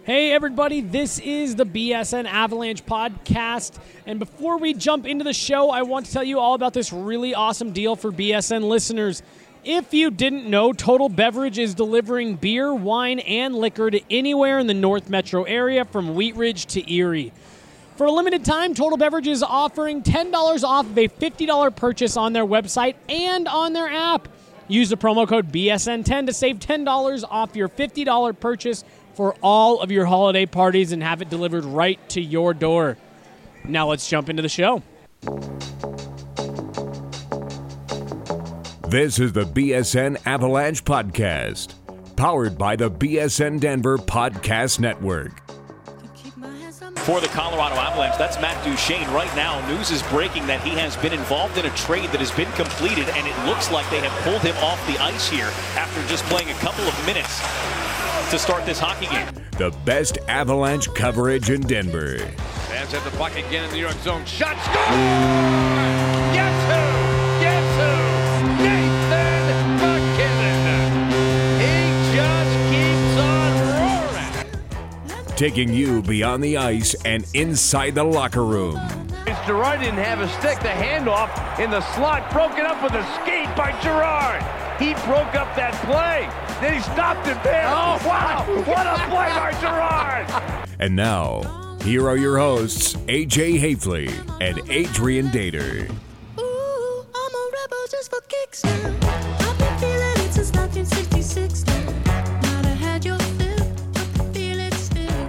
Hey everybody, this is the BSN Avalanche podcast, and before we jump into the show, I want to tell you all about this really awesome deal for BSN listeners. If you didn't know, Total Beverage is delivering beer, wine, and liquor to anywhere in the North Metro area from Wheat Ridge to Erie. For a limited time, Total Beverage is offering $10 off of a $50 purchase on their website and on their app. Use the promo code BSN10 to save $10 off your $50 purchase for all of your holiday parties and have it delivered right to your door. Now let's jump into the show. This is the BSN Avalanche Podcast, powered by the BSN Denver Podcast Network. For the Colorado Avalanche, that's Matt Duchene. Right now, news is breaking that he has been involved in a trade that has been completed, and it looks like they have pulled him off the ice here after just playing a couple of minutes to start this hockey game. The best Avalanche coverage in Denver. Fans have the puck again in the New York zone. Shot, score! Guess who? Guess who? Nathan MacKinnon. He just keeps on roaring. Taking you beyond the ice and inside the locker room. Girard didn't have a stick. The handoff in the slot broken up with a skate by Girard. He broke up that play. Then he stopped it there. Oh, wow. What a play by Girard. And now, here are your hosts, AJ Hafley and Adrian Dater. Ooh, I'm a rebel just for kicks now. I've been feeling it since 1966 now. Might have had your fill, but feel it still.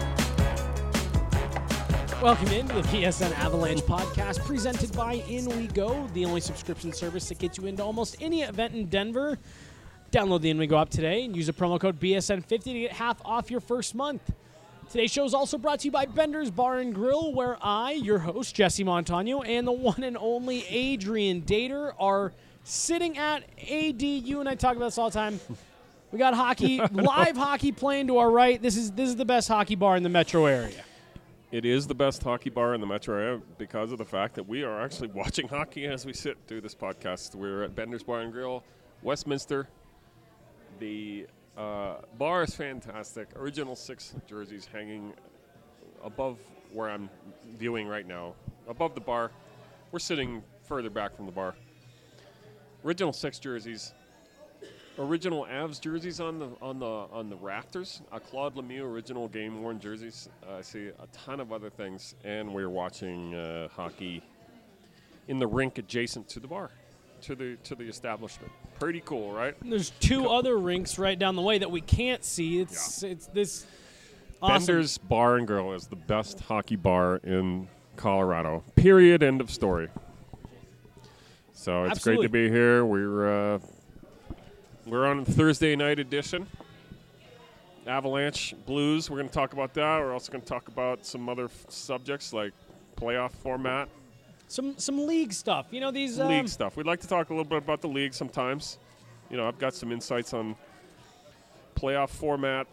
Welcome into the BSN Avalanche podcast presented by In We Go, the only subscription service that gets you into almost any event in Denver. Download the In We Go app today and use the promo code BSN50 to get half off your first month. Today's show is also brought to you by Bender's Bar and Grill, where I, your host, Jesse Montano, and the one and only Adrian Dater are sitting at AD. You and I talk about this all the time. We got hockey, live hockey playing to our right. This is the best hockey bar in the metro area. It is the best hockey bar in the metro area because of the fact that we are actually watching hockey as we sit through this podcast. We're at Bender's Bar and Grill, Westminster. The bar is fantastic. Original 6 jerseys hanging above where I'm viewing right now. Above the bar. We're sitting further back from the bar. Original 6 jerseys. Original Avs jerseys on the rafters. A Claude Lemieux original game-worn jerseys. I see a ton of other things. And we're watching hockey in the rink adjacent to the bar. To the establishment. Pretty cool, right? There's 2 other rinks right down the way that we can't see. It's this awesome. Bender's Bar and Grill is the best hockey bar in Colorado. Period. End of story. So it's Absolutely. great to be here. We're on the Thursday night edition. Avalanche Blues. We're going to talk about that. We're also going to talk about some other subjects like playoff format. Some league stuff. You know, these League stuff. We'd like to talk a little bit about the league sometimes. You know, I've got some insights on playoff format.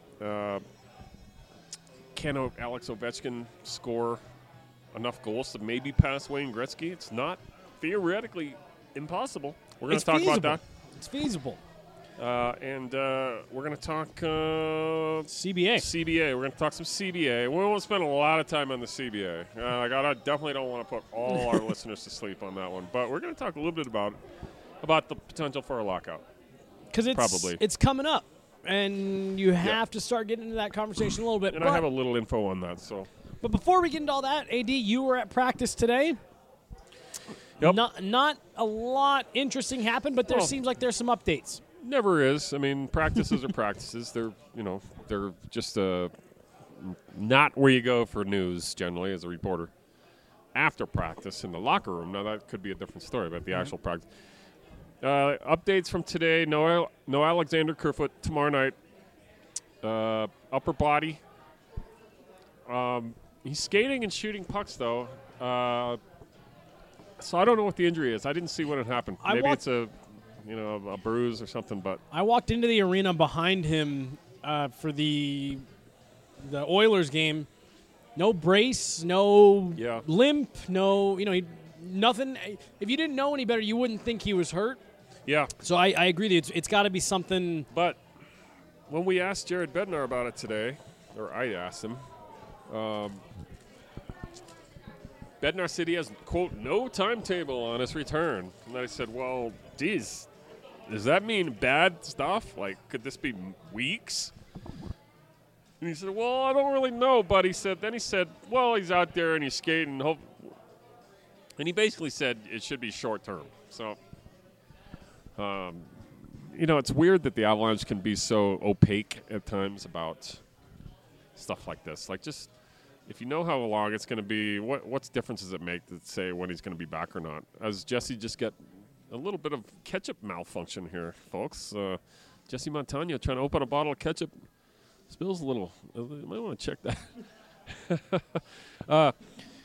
Can Alex Ovechkin score enough goals to maybe pass Wayne Gretzky? It's not theoretically impossible. We're going to talk about that. It's feasible. And we're going to talk CBA. CBA. We're going to talk some CBA. We won't spend a lot of time on the CBA. I definitely don't want to put all our listeners to sleep on that one. But we're going to talk a little bit about the potential for a lockout. Because Probably. it's coming up, and you have to start getting into that conversation a little bit. And I have a little info on that. But before we get into all that, AD, you were at practice today. Yep. Not a lot interesting happened, but there seems like there's some updates. Never is. I mean, practices are practices. They're just not where you go for news generally as a reporter. After practice in the locker room. Now that could be a different story, but the actual practice. Updates from today. No Alexander Kerfoot tomorrow night. Upper body. He's skating and shooting pucks though. So I don't know what the injury is. I didn't see when it happened. Maybe it's a bruise or something. But I walked into the arena behind him for the Oilers game. No brace, no limp, no, nothing. If you didn't know any better, you wouldn't think he was hurt. Yeah. So I agree with you. It's got to be something. But when we asked Jared Bednar about it today, or I asked him. Bednar City has, quote, no timetable on his return. And I said, well, geez, does that mean bad stuff? Like, could this be weeks? And he said, well, I don't really know, but he said, well, he's out there and he's skating. And he basically said it should be short term. So, it's weird that the Avalanche can be so opaque at times about stuff like this. Like, just if you know how long it's going to be, what difference does it make to say when he's going to be back or not? As Jesse just got a little bit of ketchup malfunction here, folks. Jesse Montano trying to open a bottle of ketchup. Spills a little. You might want to check that.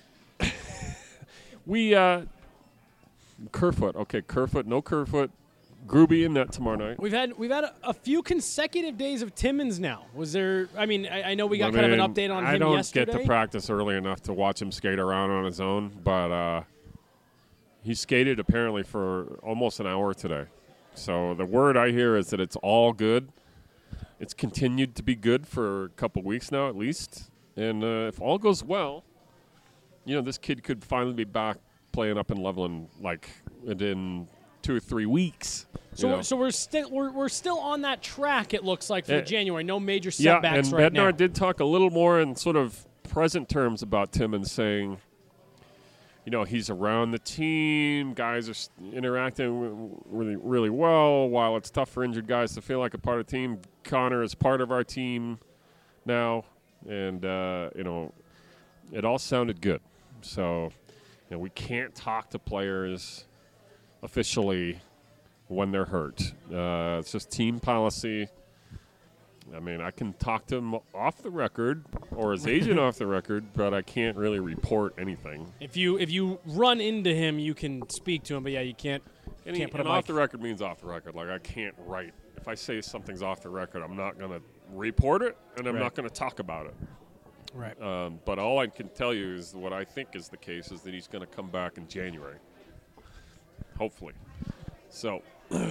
Kerfoot. Okay, Kerfoot. No Kerfoot. Gruby in net tomorrow night. We've had a few consecutive days of Timmins now. Was there? I mean, I know we got kind of an update on him yesterday. I don't get to practice early enough to watch him skate around on his own, but he skated apparently for almost an hour today. So the word I hear is that it's all good. It's continued to be good for a couple weeks now at least. And if all goes well, this kid could finally be back playing up in Loveland like within 2 or 3 weeks. So we're still on that track, it looks like, for January. No major setbacks right now. And Bednar did talk a little more in sort of present terms about Timmins, saying, he's around the team. Guys are interacting really, really well. While it's tough for injured guys to feel like a part of the team, Connor is part of our team now. And, it all sounded good. So, we can't talk to players officially when they're hurt. It's just team policy. I mean, I can talk to him off the record or his agent off the record, but I can't really report anything. If you run into him, you can speak to him, but you can't. Can't put and off the record means off the record. Like, I can't write. If I say something's off the record, I'm not going to report it, and I'm not going to talk about it. Right. But all I can tell you is what I think is the case is that he's going to come back in January. Hopefully. So,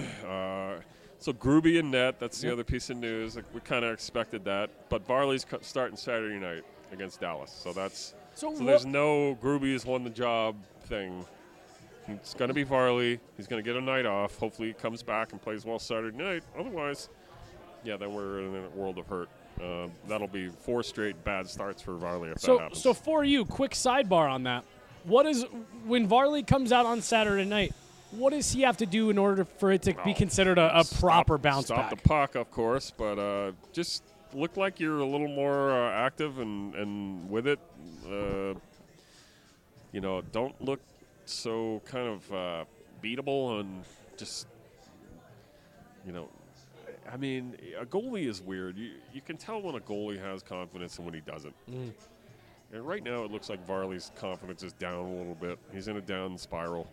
Gruby in net, that's the other piece of news. Like, we kind of expected that. But Varley's starting Saturday night against Dallas. So there's no Gruby's won the job thing. It's going to be Varley. He's going to get a night off. Hopefully he comes back and plays well Saturday night. Otherwise, then we're in a world of hurt. That'll be 4 straight bad starts for Varley if that happens. So for you, quick sidebar on that. When Varley comes out on Saturday night, what does he have to do in order for it to be considered a proper bounce back? Stop the puck, of course, but just look like you're a little more active and with it. Don't look so kind of beatable and just, I mean, a goalie is weird. You can tell when a goalie has confidence and when he doesn't. Mm. And right now it looks like Varley's confidence is down a little bit. He's in a down spiral.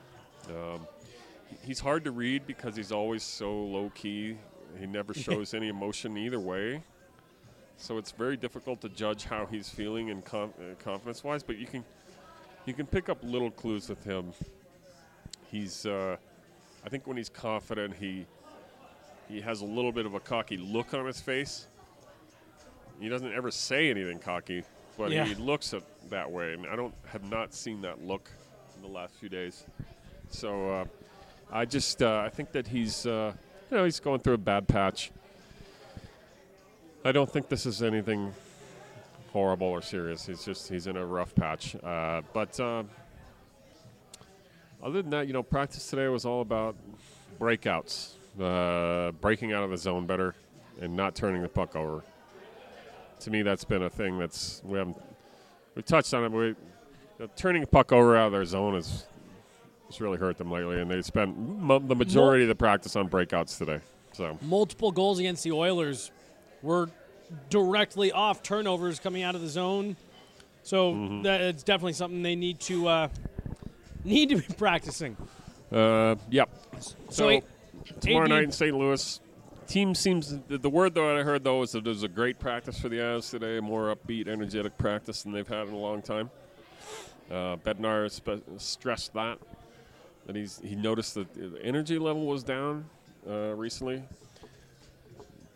He's hard to read because he's always so low-key. He never shows any emotion either way. So it's very difficult to judge how he's feeling and confidence-wise. But you can pick up little clues with him. He's, I think when he's confident, he has a little bit of a cocky look on his face. He doesn't ever say anything cocky, but he looks that way. And I have not seen that look in the last few days. So I think that he's he's going through a bad patch. I don't think this is anything horrible or serious. He's in a rough patch. But other than that, practice today was all about breakouts, breaking out of the zone better, and not turning the puck over. To me, that's been a thing we touched on it. Turning the puck over out of their zone has really hurt them lately, and they spent the majority of the practice on breakouts today. So multiple goals against the Oilers were directly off turnovers coming out of the zone. So it's definitely something they need to be practicing. Yep. So tomorrow night in St. Louis, team seems the word that I heard though is that it was a great practice for the Avs today, a more upbeat, energetic practice than they've had in a long time. Bednar stressed that he noticed that the energy level was down recently.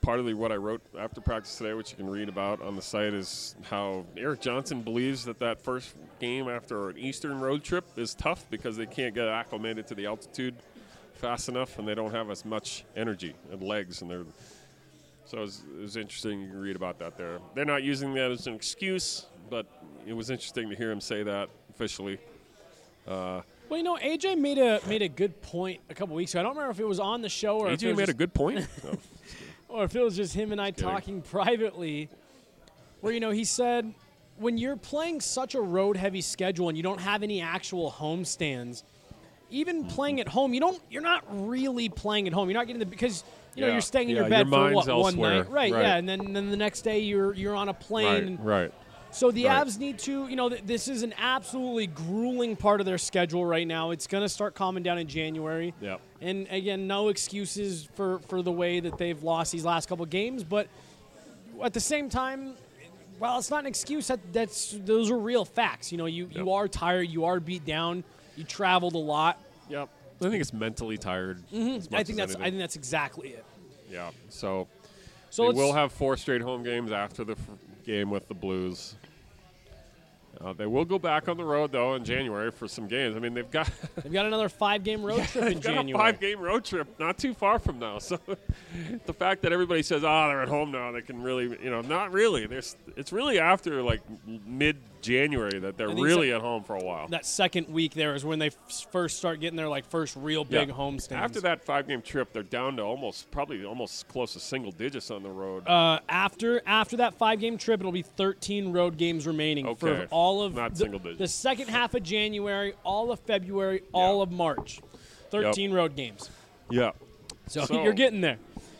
partly what I wrote after practice today, which you can read about on the site, is how Eric Johnson believes that first game after an Eastern road trip is tough because they can't get acclimated to the altitude fast enough, and they don't have as much energy and legs, and so it was interesting. You can read about that there. They're not using that as an excuse, but it was interesting to hear him say that officially. Well, AJ made a good point a couple weeks ago. I don't remember if it was on the show or AJ made a good point. No. Or if it was just him and I talking privately, where, he said, when you're playing such a road-heavy schedule and you don't have any actual home stands, even playing at home, you're not really playing at home. You're not getting because you're staying in your bed for one night, right? Yeah, and then the next day you're on a plane, right. So the Avs need to, this is an absolutely grueling part of their schedule right now. It's going to start calming down in January. Yep. And again, no excuses for the way that they've lost these last couple games, but at the same time, well, it's not an excuse. Those are real facts. You are tired, you are beat down, you traveled a lot. Yep. I think it's mentally tired. I think that's exactly it. Yeah. So we'll have 4 straight home games after the game with the Blues. They will go back on the road though in January for some games. I mean, they've got another 5-game road trip in January. A 5-game road trip, not too far from now. So the fact that everybody says, they're at home now, they can really, not really. It's really after like mid-January that they're really at home for a while. That second week there is when they first start getting their first real big home stands. After that 5-game trip, they're down to probably almost close to single digits on the road. After that 5-game trip, it'll be 13 road games remaining for all of the second half of January, all of February, all of March. 13 road games. Yeah. So you're getting there.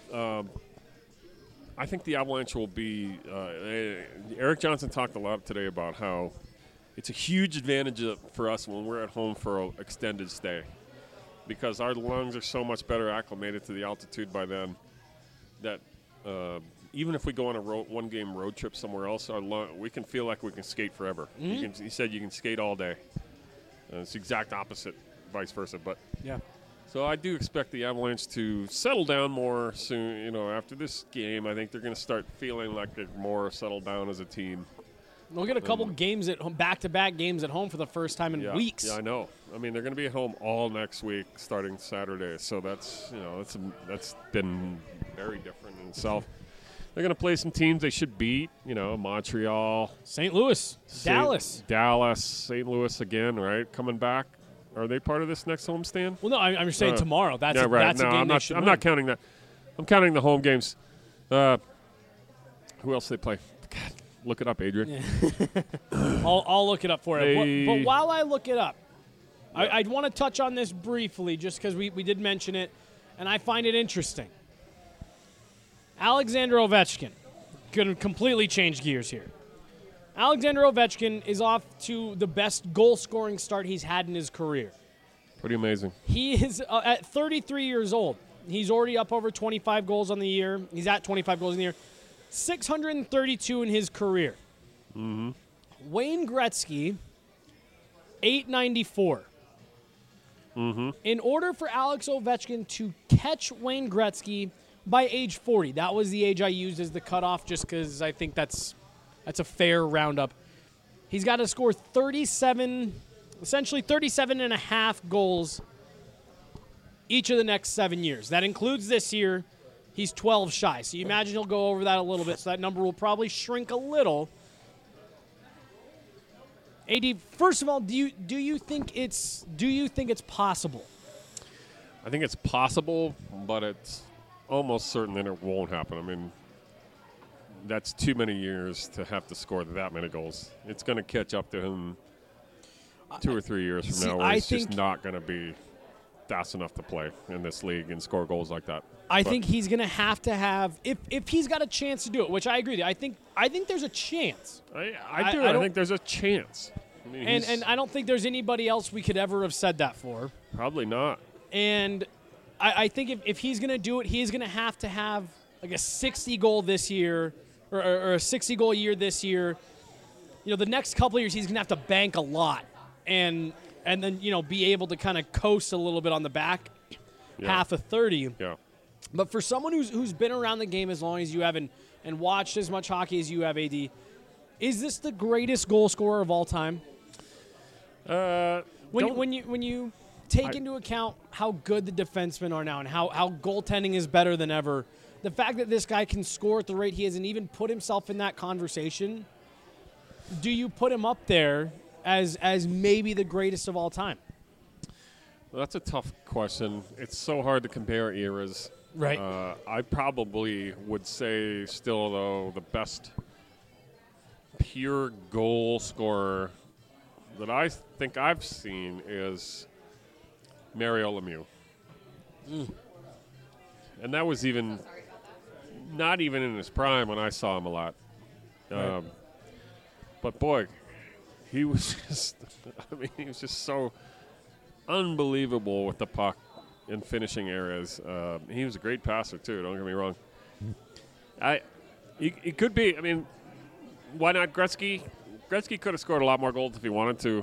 I think the Avalanche will be Eric Johnson talked a lot today about how it's a huge advantage for us when we're at home for an extended stay because our lungs are so much better acclimated to the altitude by then that even if we go on a 1-game road trip somewhere else, we can feel like we can skate forever. He said you can skate all day. It's the exact opposite, vice versa. But yeah. So I do expect the Avalanche to settle down more soon. After this game, I think they're going to start feeling like they're more settled down as a team. We'll get a couple games at home, back-to-back games at home for the first time in weeks. Yeah, I know. I mean, they're going to be at home all next week, starting Saturday. So that's been very different in itself. They're going to play some teams they should beat. Montreal, St. Louis, Dallas, St. Louis again. Right, coming back. Are they part of this next homestand? Well, no, I'm just saying tomorrow. That's a game they should win. I'm not counting that. I'm counting the home games. Who else they play? God, look it up, Adrian. Yeah. I'll look it up for you. But while I look it up, I'd want to touch on this briefly just because we did mention it, and I find it interesting. Alexander Ovechkin going to completely change gears here. Alexander Ovechkin is off to the best goal-scoring start he's had in his career. Pretty amazing. He is at 33 years old. He's already up over 25 goals on the year. He's at 25 goals in the year. 632 in his career. Mm-hmm. Wayne Gretzky, 894. Mm-hmm. In order for Alex Ovechkin to catch Wayne Gretzky by age 40, that was the age I used as the cutoff just because I think that's a fair roundup. He's got to score essentially 37 and a half goals each of the next 7 years. That includes this year. He's 12 shy. So you imagine he'll go over that a little bit. So that number will probably shrink a little. AD, first of all, do you think it's possible? I think it's possible, but it's almost certain that it won't happen. I mean, that's too many years to have to score that many goals. It's going to catch up to him 2 or 3 years from now, where it's just not going to be fast enough to play in this league and score goals like that. I think he's going to have if he's got a chance to do it, which I agree with you. I think there's a chance. I do. I think there's a chance. I mean, and I don't think there's anybody else we could ever have said that for. Probably not. And I think if he's going to do it, he's going to have like a 60-goal this year or a 60-goal year this year. The next couple of years he's going to have to bank a lot and then be able to kind of coast a little bit on the back half of 30. Yeah. But for someone who's been around the game as long as you have and watched as much hockey as you have, AD, is this the greatest goal scorer of all time? When you take into account how good the defensemen are now and how goaltending is better than ever, the fact that this guy can score at the rate he is and even put himself in that conversation, do you put him up there as maybe the greatest of all time? Well, that's a tough question. It's so hard to compare eras. Right. I probably would say still, though, the best pure goal scorer that I think I've seen is Mario Lemieux. And that was not even in his prime when I saw him a lot. But boy, he was just so unbelievable with the puck in finishing areas. He was a great passer too, don't get me wrong. It could be, why not Gretzky? Gretzky could have scored a lot more goals if he wanted to.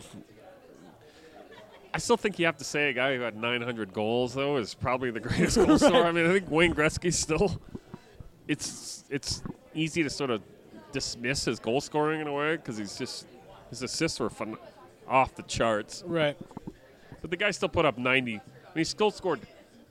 I still think you have to say a guy who had 900 goals, though, is probably the greatest goal scorer. I think Wayne Gretzky still, it's easy to sort of dismiss his goal scoring in a way because his assists were off the charts. Right. But the guy still put up 90. He still scored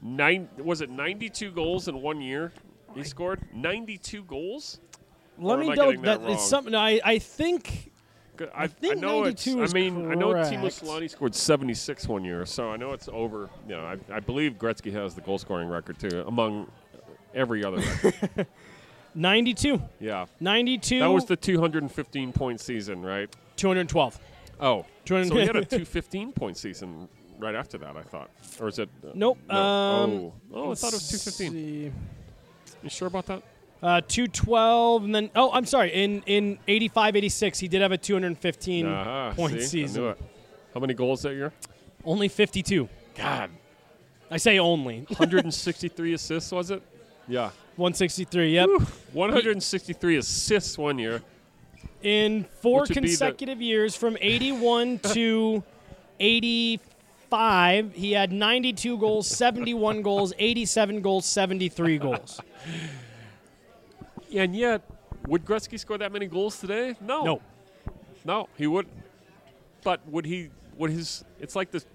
92 goals in 1 year? He scored 92 goals? Let me know that it's something. I think I know 92 is I know correct. Timo Solani scored 76 1 year, so I know it's over. I believe Gretzky has the goal scoring record too, among every other record. 92. Yeah. 92. That was the 215-point season, right? 212. Oh. 200. So he had a 215-point season right after that, I thought. Or is it? Nope. No. I thought it was 215. See. You sure about that? 212, and then I'm sorry. In 85-86, he did have a 215-point season. I knew it. How many goals that year? Only 52. God. I say only. 163 assists, was it? Yeah. 163. Yep. Whew. 163 assists 1 year. In 4 consecutive years, from 81 to 85, he had 92 goals, 71 goals, 87 goals, 73 goals. And yet, would Gretzky score that many goals today? No. No, he wouldn't. But would he? It's like the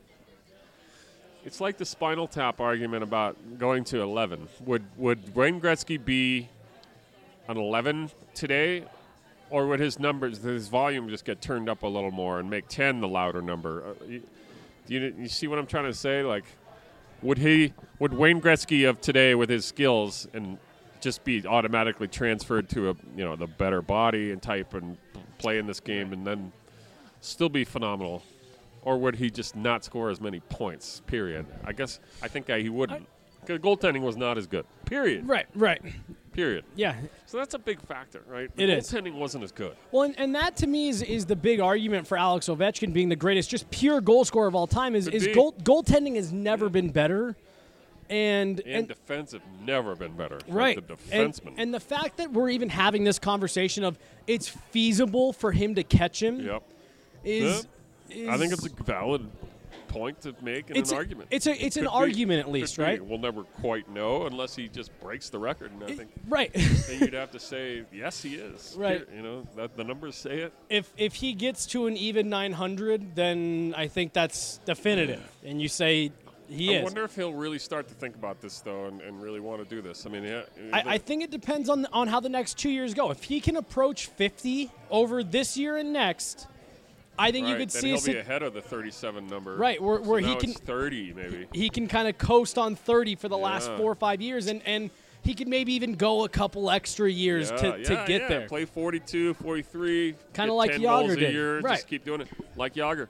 Spinal Tap argument about going to 11. Would Wayne Gretzky be an 11 today, or would his volume just get turned up a little more and make 10 the louder number? You see what I'm trying to say? Like, would Wayne Gretzky of today with his skills and just be automatically transferred to the better body and type and play in this game and then still be phenomenal? Or would he just not score as many points, period? I think he wouldn't. Because goaltending was not as good, period. Right. Period. Yeah. So that's a big factor, right? It is. Goaltending wasn't as good. Well, and that to me is the big argument for Alex Ovechkin being the greatest, just pure goal scorer of all time, is goaltending has never been better. And defense have never been better. Right. The defenseman. And the fact that we're even having this conversation of it's feasible for him to catch him is I think it's a valid point to make in an argument. It's an argument at least, right? We'll never quite know unless he just breaks the record. And I think right. then you'd have to say, yes, he is. Right. The numbers say it. If he gets to an even 900, then I think that's definitive. And you say he is. I wonder if he'll really start to think about this, though, and really want to do this. I think it depends on how the next 2 years go. If he can approach 50 over this year and next, I think you could see he'll be ahead of the 37 number. Right, where he can 30 maybe. He can kind of coast on 30 for the last 4 or 5 years, and he could maybe even go a couple extra years to get there. Play 42, 43, kind of like 10 Jágr did. A year, right. Just keep doing it like Jágr.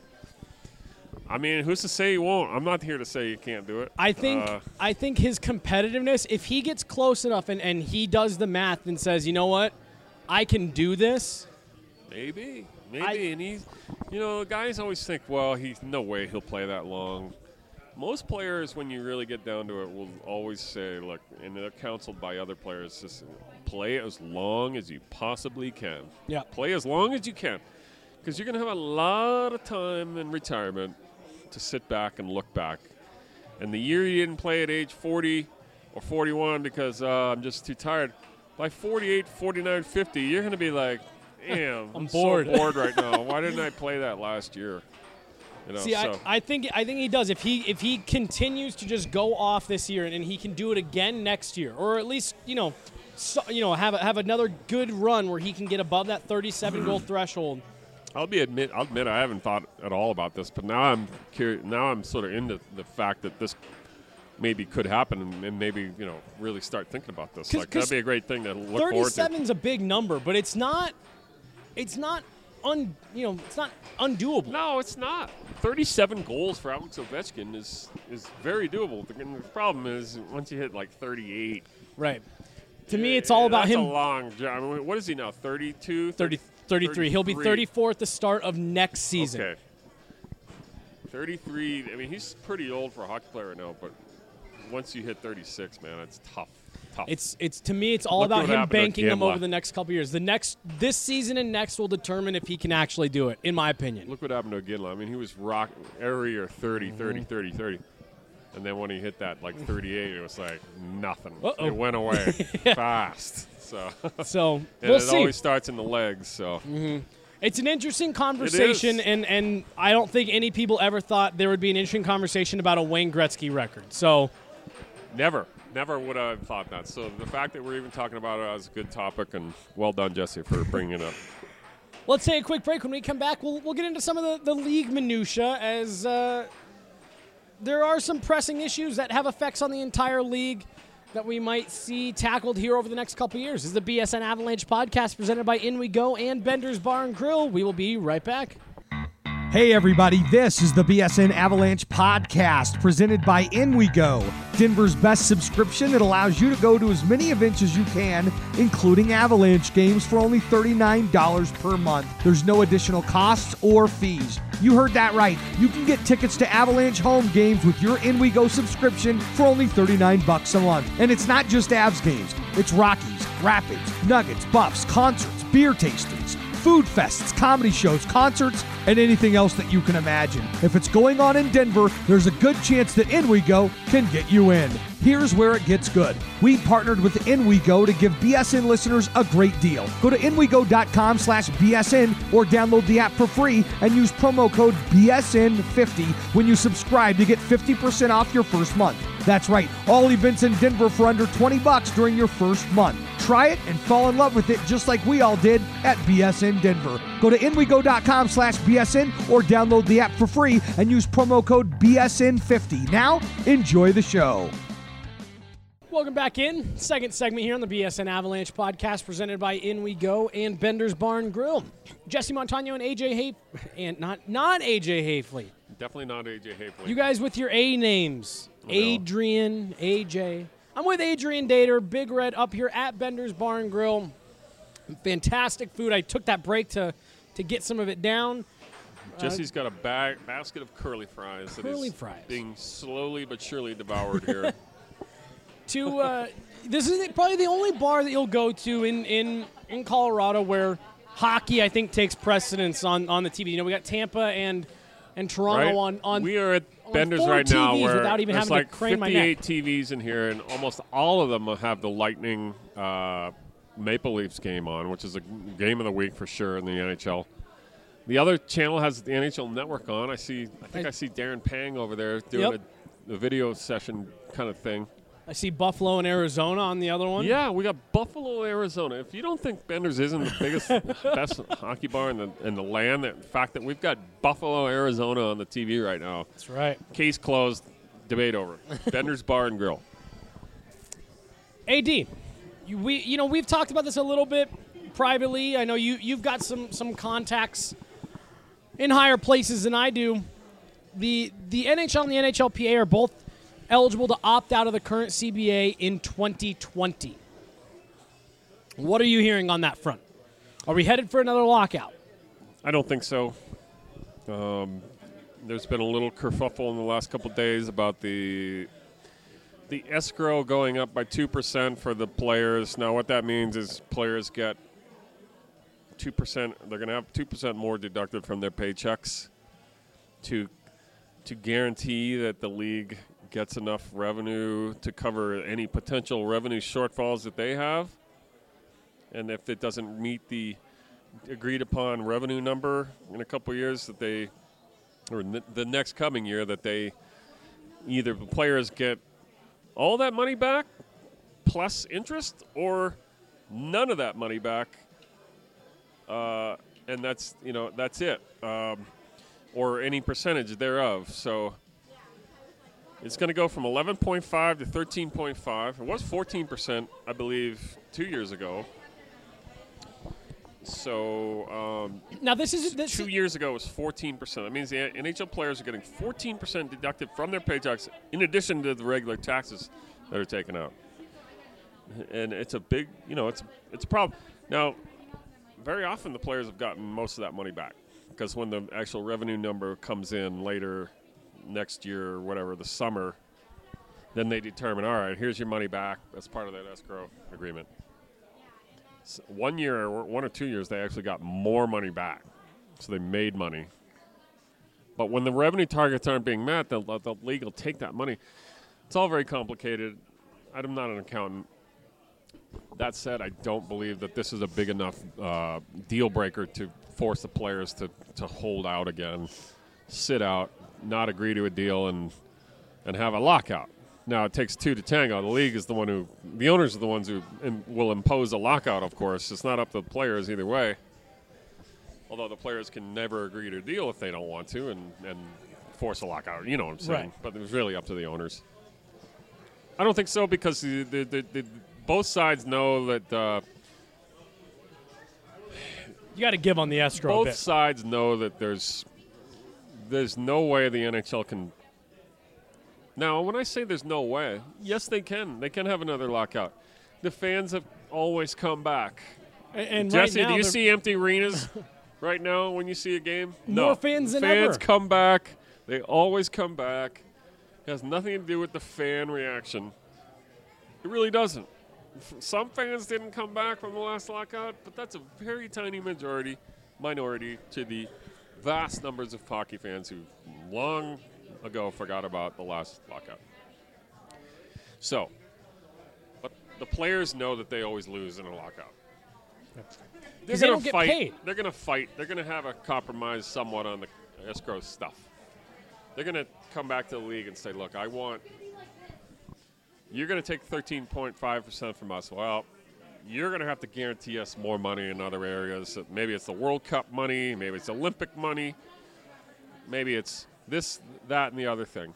Who's to say he won't? I'm not here to say you can't do it. I think his competitiveness, if he gets close enough and he does the math and says, you know what, I can do this. Maybe. And he's, guys always think, well, no way he'll play that long. Most players, when you really get down to it, will always say, look, and they're counseled by other players, just play as long as you possibly can. Yeah. Play as long as you can. Because you're going to have a lot of time in retirement to sit back and look back. And the year you didn't play at age 40 or 41 because I'm just too tired. By 48, 49, 50, you're going to be like, damn, I'm bored. So bored right now. Why didn't I play that last year? See, I think he does. If he continues to just go off this year and he can do it again next year, or at least have another good run where he can get above that 37 goal threshold. I'll admit I haven't thought at all about this, but now I'm curious. Now I'm sort of into the fact that this maybe could happen, and maybe really start thinking about this. Like that'd be a great thing to look forward to. 37's a big number, but it's not undoable. No, it's not. 37 goals for Alex Ovechkin is very doable. The problem is once you hit like 38. Right. To me, it's all about him. That's a long job. I mean, what is he now, 32? 33. He'll be 34 at the start of next season. Okay. 33. I mean, he's pretty old for a hockey player right now, but once you hit 36, man, it's tough. It's to me, it's all about him banking them over the next couple years. This season and next will determine if he can actually do it, in my opinion. Look what happened to Ginla. I mean, he was rocking every year 30. And then when he hit that, 38, it was like nothing. Uh-oh. It went away fast. So and we'll it see. always starts in the legs. So It's an interesting conversation, and I don't think any people ever thought there would be an interesting conversation about a Wayne Gretzky record. So never would I have thought that. So the fact that we're even talking about it is a good topic, and well done, Jesse, for bringing it up. Let's take a quick break. When we come back, we'll get into some of the league minutia, as there are some pressing issues that have effects on the entire league that we might see tackled here over the next couple years. This is the BSN Avalanche podcast presented by In We Go and Bender's Bar and Grill. We will be right back. Hey everybody, this is the BSN Avalanche podcast presented by In We Go, Denver's best subscription that allows you to go to as many events as you can, including Avalanche games, for only $39 per month. There's no additional costs or fees. You heard that right. You can get tickets to Avalanche home games with your In We Go subscription for only $39 a month. And it's not just Avs games. It's Rockies, Rapids, Nuggets, Buffs, concerts, beer tastings, food fests, comedy shows, concerts, and anything else that you can imagine. If it's going on in Denver, there's a good chance that In We Go can get you in. Here's where it gets good. We partnered with In We Go to give BSN listeners a great deal. Go to inwego.com/BSN or download the app for free and use promo code BSN50 when you subscribe to get 50% off your first month. That's right, all events in Denver for under $20 during your first month. Try it and fall in love with it just like we all did at BSN Denver. Go to inwego.com/BSN or download the app for free and use promo code BSN50. Now, enjoy the show. Welcome back in. Second segment here on the BSN Avalanche podcast presented by In We Go and Bender's Bar and Grill. Jesse Montano and AJ and not AJ Hafley. Definitely not AJ Hafley. You guys with your A names. Adrian, AJ. I'm with Adrian Dater, Big Red, up here at Bender's Bar and Grill. Fantastic food. I took that break to get some of it down. Jesse's got a basket of curly fries that is fries being slowly but surely devoured here. This is probably the only bar that you'll go to in Colorado where hockey, I think, takes precedence on the TV. You know, we got Tampa and Toronto on. We are at Bender's right now, TVs where without even there's having like to crane 58 my neck. TVs in here, and almost all of them have the Lightning Maple Leafs game on, which is a game of the week for sure in the NHL. The other channel has the NHL Network on. I think I see Darren Pang over there doing a video session kind of thing. I see Buffalo and Arizona on the other one. Yeah, we got Buffalo, Arizona. If you don't think Bender's isn't the biggest, best hockey bar in the land, the fact that we've got Buffalo, Arizona on the TV right now. That's right. Case closed. Debate over. Bender's Bar and Grill. AD, we've talked about this a little bit privately. I know you've got some contacts in higher places than I do. The NHL and the NHLPA are both eligible to opt out of the current CBA in 2020. What are you hearing on that front? Are we headed for another lockout? I don't think so. There's been a little kerfuffle in the last couple of days about the escrow going up by 2% for the players. Now, what that means is players get 2%. They're going to have 2% more deducted from their paychecks to guarantee that the league gets enough revenue to cover any potential revenue shortfalls that they have. And if it doesn't meet the agreed upon revenue number in a couple of years that they, or the next coming year, that they either the players get all that money back plus interest or none of that money back. And that's it. Or any percentage thereof. So it's going to go from 11.5 to 13.5. It was 14%, I believe, 2 years ago. So now this 2 years ago it was 14%. That means the NHL players are getting 14% deducted from their paychecks in addition to the regular taxes that are taken out. And it's a big, it's a problem. Now, very often the players have gotten most of that money back because when the actual revenue number comes in later next year or whatever, the summer, then they determine, all right, here's your money back. That's part of that escrow agreement. 1 year or 1 or 2 years, they actually got more money back. So they made money. But when the revenue targets aren't being met, the league will take that money. It's all very complicated. I'm not an accountant. That said, I don't believe that this is a big enough deal breaker to force the players to hold out again, sit out, not agree to a deal, and have a lockout. Now, it takes two to tango. The league is the owners are the ones who will impose a lockout, of course. It's not up to the players either way. Although the players can never agree to a deal if they don't want to and force a lockout. You know what I'm saying? Right. But it's really up to the owners. I don't think so because both sides know that you got to give on the escrow a both bit. sides know that there's no way the NHL can. Now, when I say there's no way, yes, they can. They can have another lockout. The fans have always come back. And Jesse, right now do you see empty arenas right now when you see a game? More No. fans than Fans ever. come back. They always come back. It has nothing to do with the fan reaction. It really doesn't. Some fans didn't come back from the last lockout, but that's a very tiny minority to the vast numbers of hockey fans who long ago forgot about the last lockout. So, but the players know that they always lose in a lockout. Because they don't get fight. paid. They're going to fight. They're going to have a compromise somewhat on the escrow stuff. They're going to come back to the league and say, look, you're going to take 13.5% from us. Well, you're going to have to guarantee us more money in other areas. Maybe it's the World Cup money. Maybe it's Olympic money. Maybe it's this, that, and the other thing.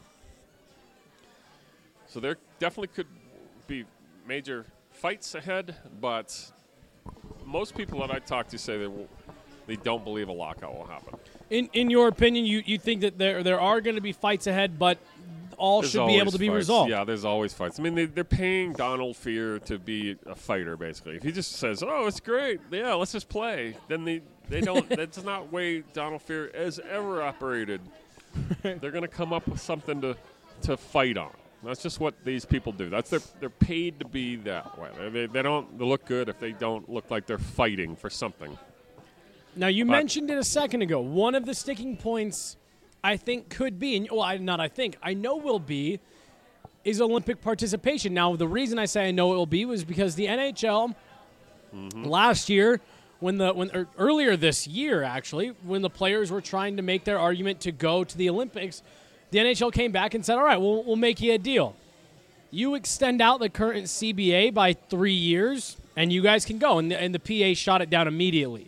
So there definitely could be major fights ahead, but most people that I talk to say they don't believe a lockout will happen. In your opinion, you think that there are going to be fights ahead, but all There's should be able to be fights. resolved. Yeah, there's always fights. I mean, they're paying Donald Fear to be a fighter, basically. If he just says, "Oh, it's great, yeah, let's just play," then they don't. That's not the way Donald Fear has ever operated. They're going to come up with something to fight on. That's just what these people do. They're paid to be that way. They don't look good if they don't look like they're fighting for something. Now, you mentioned it a second ago. One of the sticking points I think could be, I know will be, is Olympic participation. Now, the reason I say I know it will be was because the NHL last year, or earlier this year, actually, when the players were trying to make their argument to go to the Olympics, the NHL came back and said, all right, we'll make you a deal. You extend out the current CBA by 3 years, and you guys can go. And the PA shot it down immediately.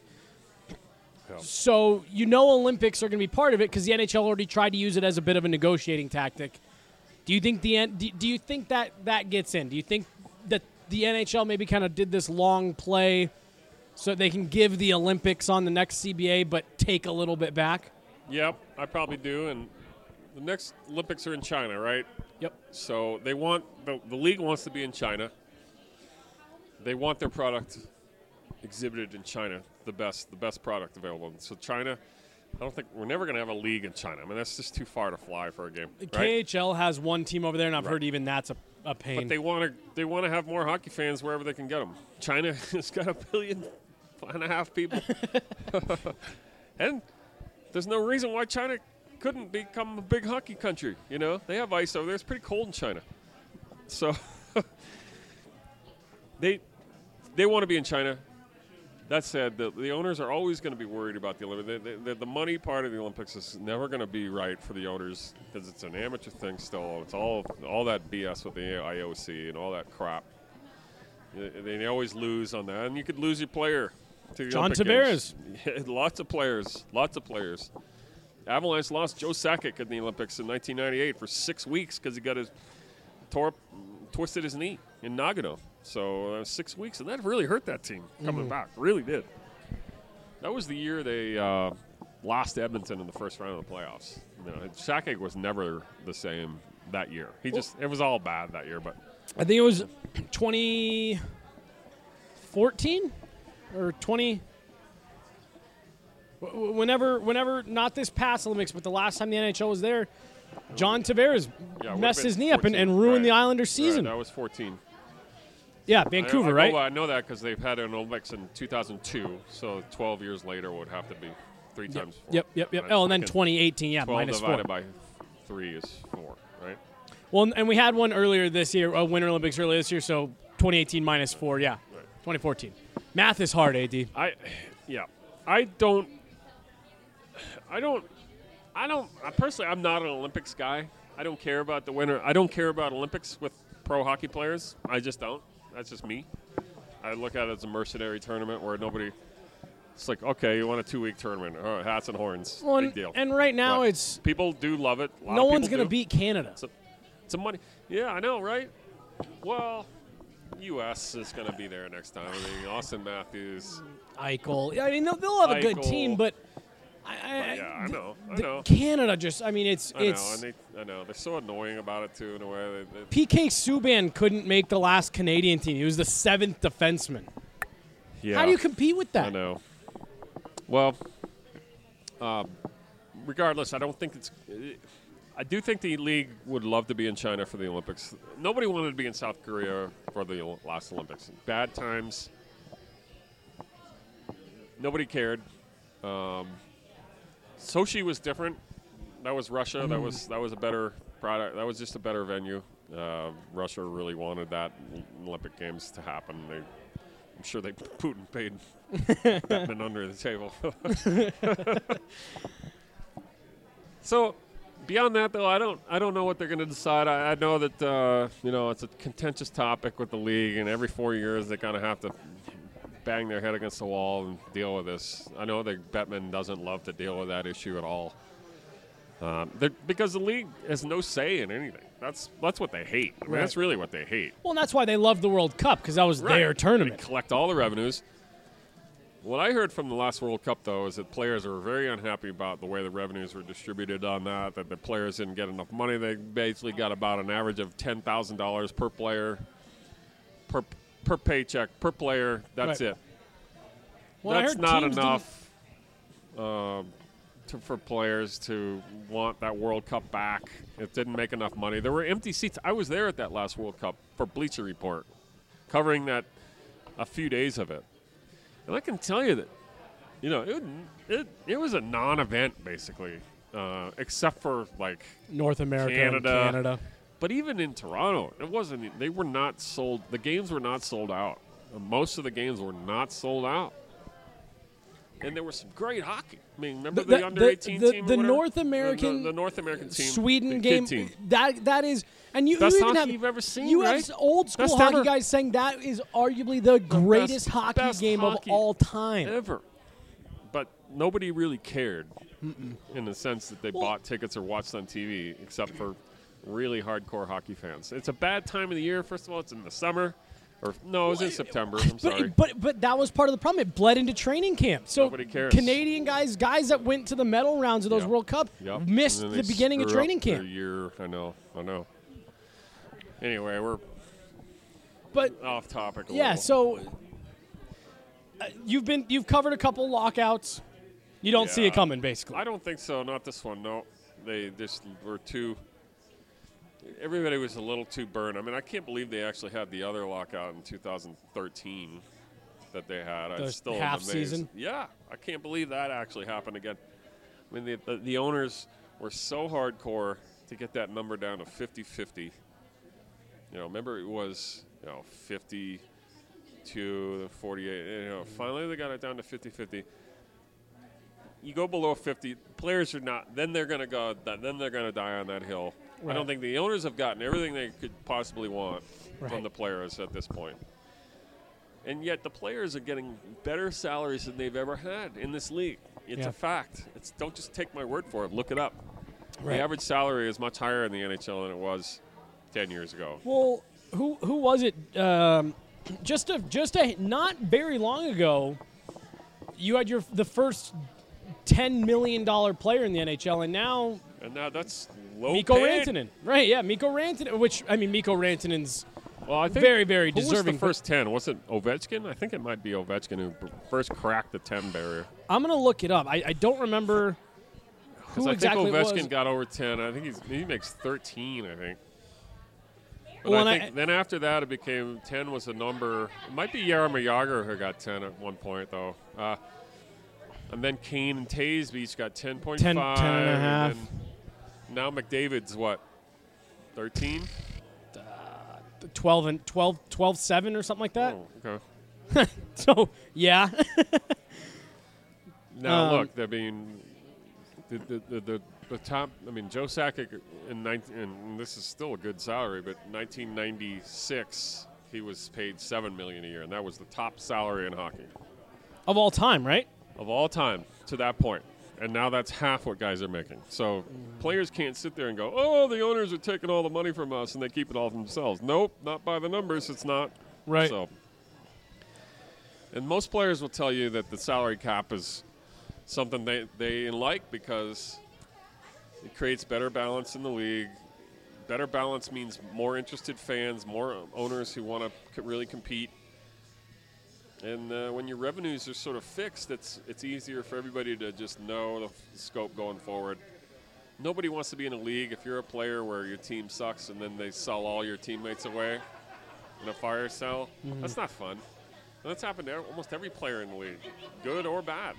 So Olympics are going to be part of it because the NHL already tried to use it as a bit of a negotiating tactic. Do you think do you think that gets in? Do you think that the NHL maybe kind of did this long play so they can give the Olympics on the next CBA but take a little bit back? Yep, I probably do. And the next Olympics are in China, right? Yep. So they want the league wants to be in China. They want their product exhibited in China, the best product available. So China, I don't think we're never going to have a league in China. I mean, that's just too far to fly for a game. Right? KHL has one team over there, and I've heard even that's a pain. But they want to have more hockey fans wherever they can get them. China has got 1.5 billion people, and there's no reason why China couldn't become a big hockey country. You know, they have ice over there. It's pretty cold in China, so they want to be in China. That said, the owners are always going to be worried about the Olympics. The money part of the Olympics is never going to be right for the owners because it's an amateur thing still. It's all that BS with the IOC and all that crap. They always lose on that, and you could lose your player to the John Olympic Tavares. Games. Lots of players. Avalanche lost Joe Sakic in the Olympics in 1998 for 6 weeks because he got twisted his knee in Nagano. So 6 weeks, and that really hurt that team coming back. Really did. That was the year they lost Edmonton in the first round of the playoffs. You know, Sakic was never the same that year. It was all bad that year. But I think it was 2014 or 20. Whenever not this past Olympics, but the last time the NHL was there, John Tavares messed his knee up and ruined the Islanders' season. That was 14. Yeah, Vancouver, right? I know that because they've had an Olympics in 2002, so 12 years later would have to be 3 times 4. Yep. Oh, and then 2018, 12 minus 4. divided by 3 is 4, right? Well, and we had one earlier this year, a Winter Olympics earlier this year, so 2018 minus 4, yeah. Right. 2014. Math is hard, AD. Personally, I'm not an Olympics guy. I don't care about the winter. I don't care about Olympics with pro hockey players. I just don't. That's just me. I look at it as a mercenary tournament where it's like, okay, you want a 2-week tournament. All right, hats and horns. Well, big deal. And right now but people do love it. No one's going to beat Canada. It's a money. Yeah, I know, right? Well, U.S. is going to be there next time. I mean, Austin Matthews. Eichel. I mean, they'll have a good team, but I know. Canada just, I mean, I know. They're so annoying about it, too, in a way. PK Subban couldn't make the last Canadian team. He was the 7th defenseman. Yeah. How do you compete with that? I know. Well, regardless, I do think the league would love to be in China for the Olympics. Nobody wanted to be in South Korea for the last Olympics. Bad times. Nobody cared. Sochi was different. That was Russia. That was a better product. That was just a better venue. Russia really wanted that Olympic Games to happen. I'm sure Putin paid Bettman under the table. So beyond that, though, I don't know what they're going to decide. I know that it's a contentious topic with the league, and every 4 years they kind of have to bang their head against the wall and deal with this. I know that Bettman doesn't love to deal with that issue at all, because the league has no say in anything. That's what they hate. I mean, that's really what they hate. Well, and that's why they love the World Cup, because that was their tournament. They collect all the revenues. What I heard from the last World Cup, though, is that players were very unhappy about the way the revenues were distributed on that the players didn't get enough money. They basically got about an average of $10,000 per player, per paycheck, per player. That's it. Well, that's not enough for players to want that World Cup back. It didn't make enough money. There were empty seats. I was there at that last World Cup for Bleacher Report, covering that a few days of it. And I can tell you that, it was a non-event basically, except for like North America, Canada. But even in Toronto, it wasn't. They were not sold. The games were not sold out. Most of the games were not sold out. And there was some great hockey. I mean, remember the under-18 team? The North American, the North American team, Sweden game. Team. That is, and you best even hockey have you've ever seen. You right? have old school best hockey ever. guys saying that is arguably the greatest hockey game hockey of all time ever. But nobody really cared in the sense that they bought tickets or watched on TV, except for really hardcore hockey fans. It's a bad time of the year. First of all, it's in the summer. It was in September. I'm sorry. But that was part of the problem. It bled into training camp. So nobody cares. Canadian guys that went to the medal rounds of those World Cup missed the beginning of training camp. Year. I know. Anyway, we're off topic a little. So you've covered a couple lockouts. You don't see it coming, basically. I don't think so. Not this one. No, they just were too. Everybody was a little too burned. I mean, I can't believe they actually had the other lockout in 2013 that they had. I'm still half amazed. season? Yeah, I can't believe that actually happened again. I mean, the owners were so hardcore to get that number down to 50-50. Remember it was 50 to 48. Finally they got it down to 50-50. You go below 50, players are not. Then they're going to go. Then they're going to die on that hill. Right. I don't think the owners have gotten everything they could possibly want from the players at this point. And yet the players are getting better salaries than they've ever had in this league. It's a fact. Don't just take my word for it. Look it up. Right. The average salary is much higher in the NHL than it was 10 years ago. Well, who was it? Just not very long ago, you had the first $10 million player in the NHL, and now that's low Mikko paid. Rantanen. Right, yeah, Mikko Rantanen, Mikko Rantanen's I think very, very deserving. Who was the first 10? Was it Ovechkin? I think it might be Ovechkin who first cracked the 10 barrier. I'm going to look it up. I don't remember who exactly it was. I think Ovechkin got over 10. I think he makes 13, I think. But then after that, it became 10 was a number. It might be Jaromir Jagr who got 10 at one point, though. And then Kane and Taves each got 10.5. 10 and a half. And now McDavid's what, 13? 12-7 or something like that. Oh, okay. So, yeah. Now, look, I mean, the top, Joe Sakic and this is still a good salary, but 1996, he was paid $7 million a year, and that was the top salary in hockey. Of all time, right? Of all time to that point. And now that's half what guys are making. So players can't sit there and go, oh, the owners are taking all the money from us and they keep it all for themselves. Nope, not by the numbers. It's not. Right. So, and most players will tell you that the salary cap is something they like because it creates better balance in the league. Better balance means more interested fans, more owners who want to really compete. And when your revenues are sort of fixed, it's easier for everybody to just know the scope going forward. Nobody wants to be in a league if you're a player where your team sucks and then they sell all your teammates away in a fire sale. Mm-hmm. That's not fun. And that's happened to almost every player in the league, good or bad.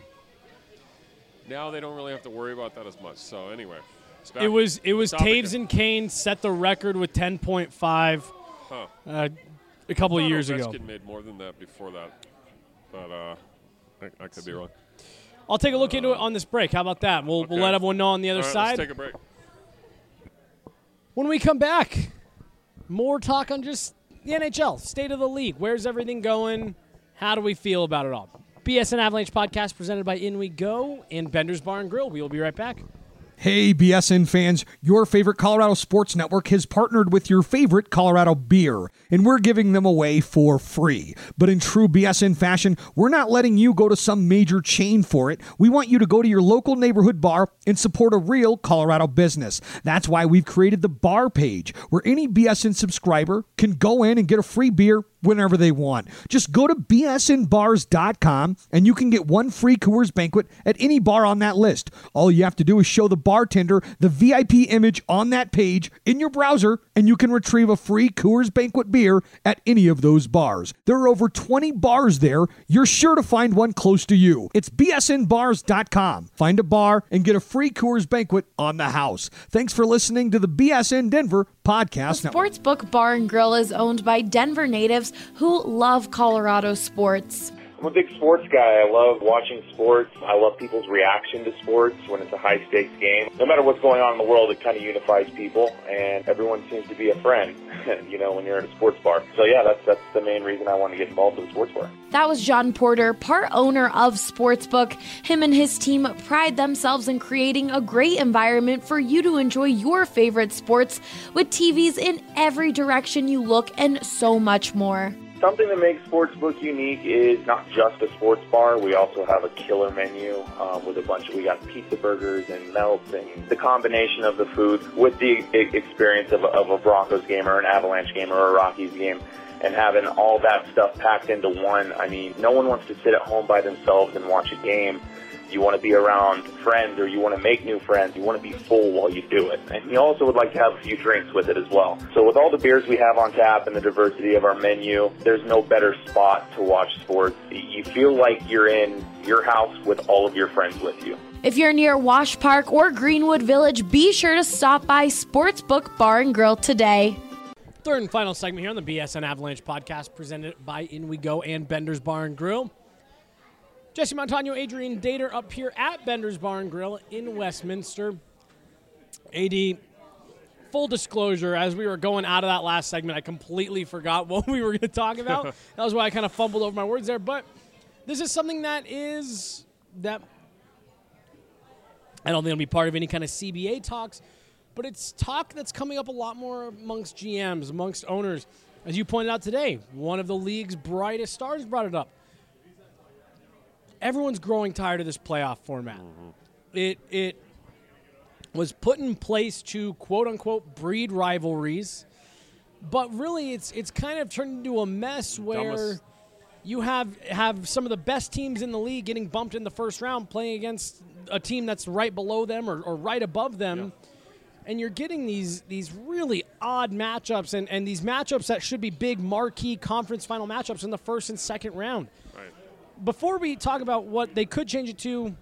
Now they don't really have to worry about that as much. So anyway, it was Taves and Kane set the record with 10.5 a couple of years ago. Ovechkin made more than that before that. But I could be wrong. I'll take a look into it on this break. How about that? We'll let everyone know on the other side. Let's take a break. When we come back, more talk on just the NHL, state of the league. Where's everything going? How do we feel about it all? BSN Avalanche podcast presented by In We Go and Bender's Bar and Grill. We will be right back. Hey, BSN fans, your favorite Colorado Sports Network has partnered with your favorite Colorado beer, and we're giving them away for free. But in true BSN fashion, we're not letting you go to some major chain for it. We want you to go to your local neighborhood bar and support a real Colorado business. That's why we've created the bar page, where any BSN subscriber can go in and get a free beer whenever they want. Just go to bsnbars.com and you can get one free Coors Banquet at any bar on that list. All you have to do is show the bartender the VIP image on that page in your browser and you can retrieve a free Coors Banquet beer at any of those bars. There are over 20 bars there. You're sure to find one close to you. It's bsnbars.com. Find a bar and get a free Coors Banquet on the house. Thanks for listening to the BSN Denver Podcast Network. Sportsbook Bar and Grill is owned by Denver natives who love Colorado sports. I'm a big sports guy. I love watching sports. I love people's reaction to sports when it's a high-stakes game. No matter what's going on in the world, it kind of unifies people, and everyone seems to be a friend, when you're in a sports bar. So, yeah, that's the main reason I want to get involved with a sports bar. That was John Porter, part owner of Sportsbook. Him and his team pride themselves in creating a great environment for you to enjoy your favorite sports with TVs in every direction you look and so much more. Something that makes Sportsbook unique is not just a sports bar. We also have a killer menu with we got pizza burgers and melts and the combination of the food with the experience of a Broncos game or an Avalanche game or a Rockies game and having all that stuff packed into one. I mean, no one wants to sit at home by themselves and watch a game you want to be around friends, or you want to make new friends, you want to be full while you do it. And you also would like to have a few drinks with it as well. So with all the beers we have on tap and the diversity of our menu, there's no better spot to watch sports. You feel like you're in your house with all of your friends with you. If you're near Wash Park or Greenwood Village, be sure to stop by Sportsbook Bar and Grill today. Third and final segment here on the BSN Avalanche podcast, presented by In We Go and Bender's Bar and Grill. Jesse Montano, Adrian Dater up here at Bender's Bar and Grill in Westminster. AD, full disclosure, as we were going out of that last segment, I completely forgot what we were going to talk about. That was why I kind of fumbled over my words there. But this is something that I don't think it'll be part of any kind of CBA talks, but it's talk that's coming up a lot more amongst GMs, amongst owners. As you pointed out today, one of the league's brightest stars brought it up. Everyone's growing tired of this playoff format. It was put in place to, quote-unquote, breed rivalries, but really it's kind of turned into a mess where you have some of the best teams in the league getting bumped in the first round playing against a team that's right below them or right above them, and you're getting these really odd matchups and these matchups that should be big marquee conference final matchups in the first and second round. Right. Before we talk about what they could change it to,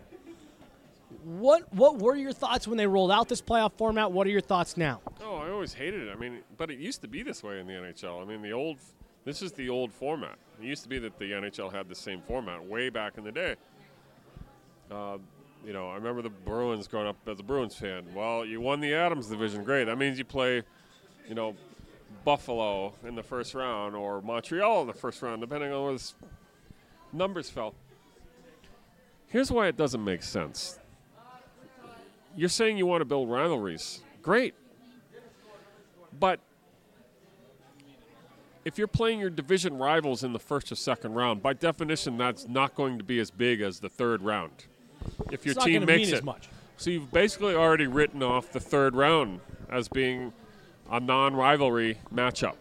what were your thoughts when they rolled out this playoff format? What are your thoughts now? Oh, I always hated it. I mean, but it used to be this way in the NHL. I mean, this is the old format. It used to be that the NHL had the same format way back in the day. You know, I remember the Bruins growing up as a Bruins fan. Well, you won the Adams division. Great. That means you play, you know, Buffalo in the first round or Montreal in the first round, depending on where the numbers fell. Here's why it doesn't make sense. You're saying you want to build rivalries. Great. But if you're playing your division rivals in the first or second round, by definition, that's not going to be as big as the third round. If your team makes it. As much. So you've basically already written off the third round as being a non-rivalry matchup.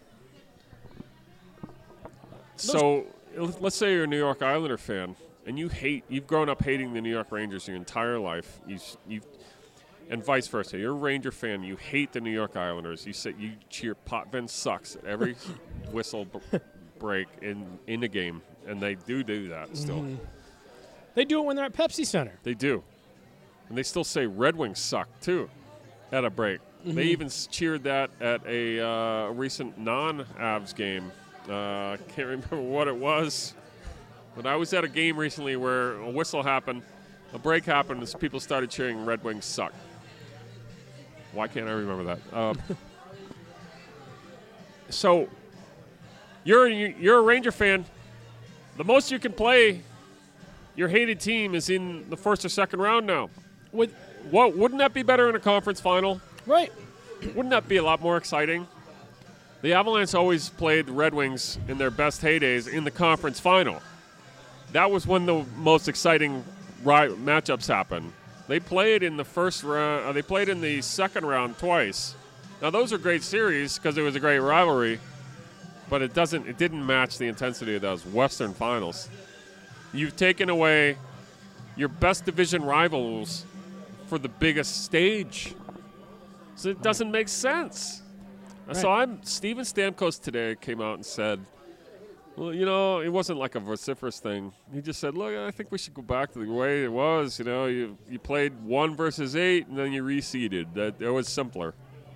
So let's say you're a New York Islander fan and you've grown up hating the New York Rangers your entire life. And vice versa. You're a Ranger fan. You hate the New York Islanders. You cheer Potvin sucks at every whistle break in the game, and they do that still. Mm-hmm. They do it when they're at Pepsi Center. They do. And they still say Red Wings suck, too, at a break. Mm-hmm. They even cheered that at a recent non-Avs game. I can't remember what it was. But I was at a game recently where a whistle happened, a break happened, and people started cheering Red Wings suck. Why can't I remember that? So you're a Ranger fan. The most you can play your hated team is in the first or second round now. Wouldn't that be better in a conference final? Right. Wouldn't that be a lot more exciting? The Avalanche always played the Red Wings in their best heydays in the conference final. That was when the most exciting matchups happened. They played in the first round. They played in the second round twice. Now those are great series because it was a great rivalry, but it didn't match the intensity of those Western finals. You've taken away your best division rivals for the biggest stage, so it doesn't make sense. Right. So Steven Stamkos today came out and said, well, you know, it wasn't like a vociferous thing. He just said, look, I think we should go back to the way it was. You know, you played 1 versus 8, and then you reseeded. That it was simpler.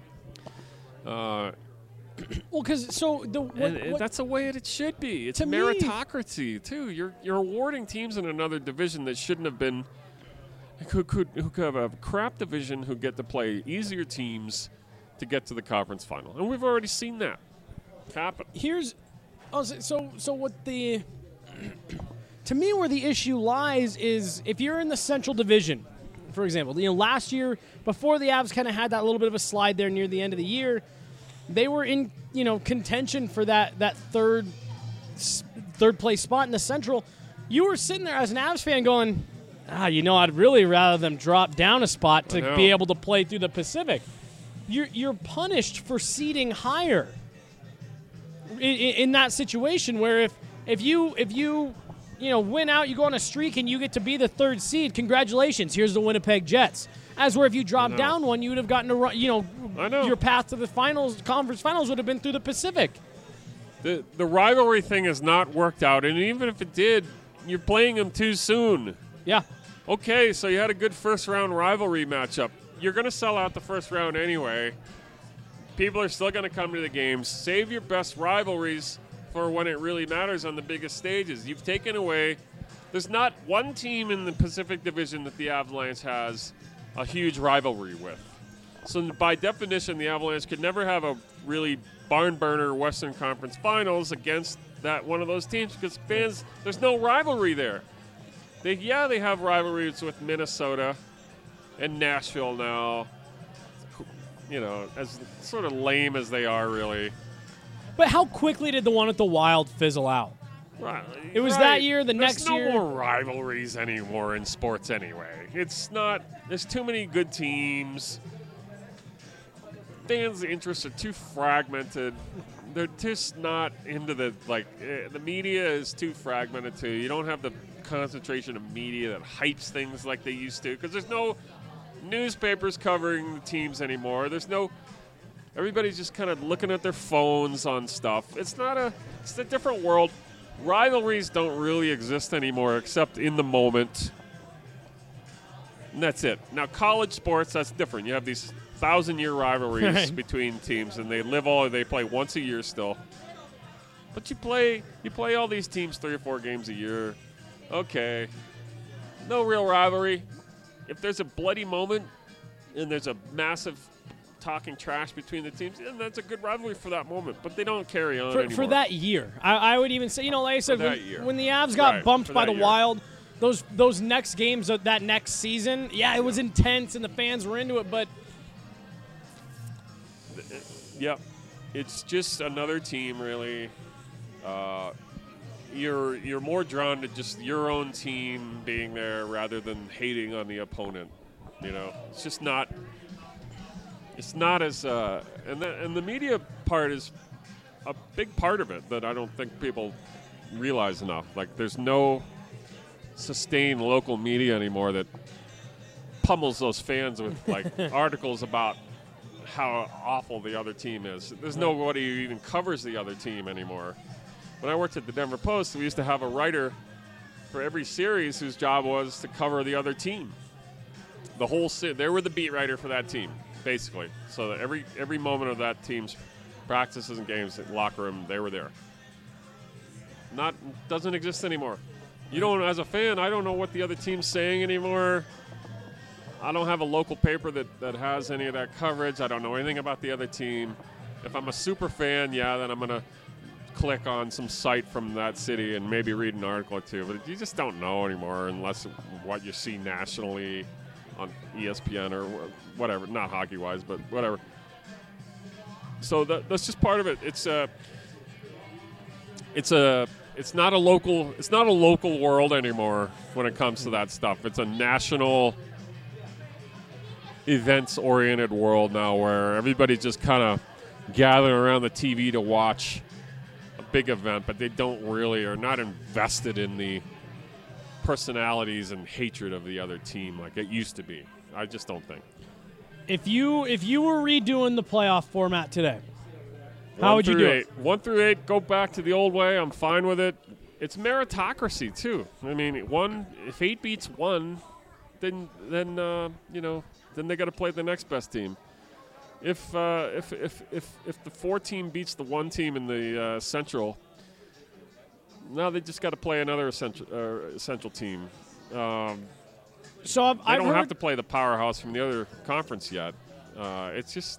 Well, because that's the way it should be. It's meritocracy too. You're awarding teams in another division that shouldn't have been, who could have a crap division who get to play easier teams to get to the conference final, and we've already seen that happen. So what the to me where the issue lies is if you're in the Central Division, for example, you know, last year before the Avs kind of had that little bit of a slide there near the end of the year, they were in, you know, contention for that third place spot in the Central. You were sitting there as an Avs fan going, you know, I'd really rather them drop down a spot to be able to play through the Pacific. You're punished for seeding higher in that situation where if you win out, you go on a streak, and you get to be the 3rd seed. Congratulations. Here's the Winnipeg Jets. As where if you dropped down one, you would have gotten to run. I know. Your path to the conference finals would have been through the Pacific. The rivalry thing has not worked out, and even if it did, you're playing them too soon. Yeah. Okay, so you had a good first-round rivalry matchup. You're going to sell out the first round anyway. People are still going to come to the games. Save your best rivalries for when it really matters on the biggest stages. You've taken away – there's not one team in the Pacific Division that the Avalanche has a huge rivalry with. So by definition, the Avalanche could never have a really barn-burner Western Conference Finals against that one of those teams because fans – there's no rivalry there. They have rivalries with Minnesota and Nashville now, as sort of lame as they are, really. But how quickly did the one at the Wild fizzle out? Right. It was that year, next year. There's no more rivalries anymore in sports anyway. It's not, there's too many good teams. Fans' interests are too fragmented. They're just not into the media is too fragmented too. You don't have the concentration of media that hypes things like they used to because there's no newspapers covering the teams anymore. Everybody's just kind of looking at their phones on stuff. It's a different world. Rivalries don't really exist anymore except in the moment. And that's it. Now college sports, that's different. You have these 1,000-year rivalries between teams and they play once a year still. But you play all these teams 3 or 4 games a year. Okay. No real rivalry. If there's a bloody moment and there's a massive talking trash between the teams, and that's a good rivalry for that moment, but they don't carry on anymore. For that year. I would even say, like I said, when the Avs got bumped by the Wild, those next games of that next season, it was intense and the fans were into it, but... Yep. It's just another team, really. You're more drawn to just your own team being there rather than hating on the opponent. It's just not. It's not as and the media part is a big part of it that I don't think people realize enough. Like there's no sustained local media anymore that pummels those fans with articles about how awful the other team is. There's nobody who even covers the other team anymore. When I worked at the Denver Post, we used to have a writer for every series whose job was to cover the other team. The whole they were the beat writer for that team, basically. So that every moment of that team's practices and games, locker room, they were there. Doesn't exist anymore. You don't, as a fan, I don't know what the other team's saying anymore. I don't have a local paper that has any of that coverage. I don't know anything about the other team. If I'm a super fan, then I'm going to click on some site from that city and maybe read an article or two. But you just don't know anymore unless what you see nationally on ESPN or whatever. Not hockey-wise, but whatever. So that's just part of it. It's not a local world anymore when it comes to that stuff. It's a national events-oriented world now where everybody's just kind of gathering around the TV to watch a big event, but they don't really are not invested in the personalities and hatred of the other team like it used to be. I just don't think. If you were redoing the playoff format today, how would you do it? 1 through 8, go back to the old way. I'm fine with it. It's meritocracy too. I mean, if 8 beats 1, then they got to play the next best team. If the 4 team beats the 1 team in the Central, now they just got to play another Central team. So I don't have to play the powerhouse from the other conference yet. It's just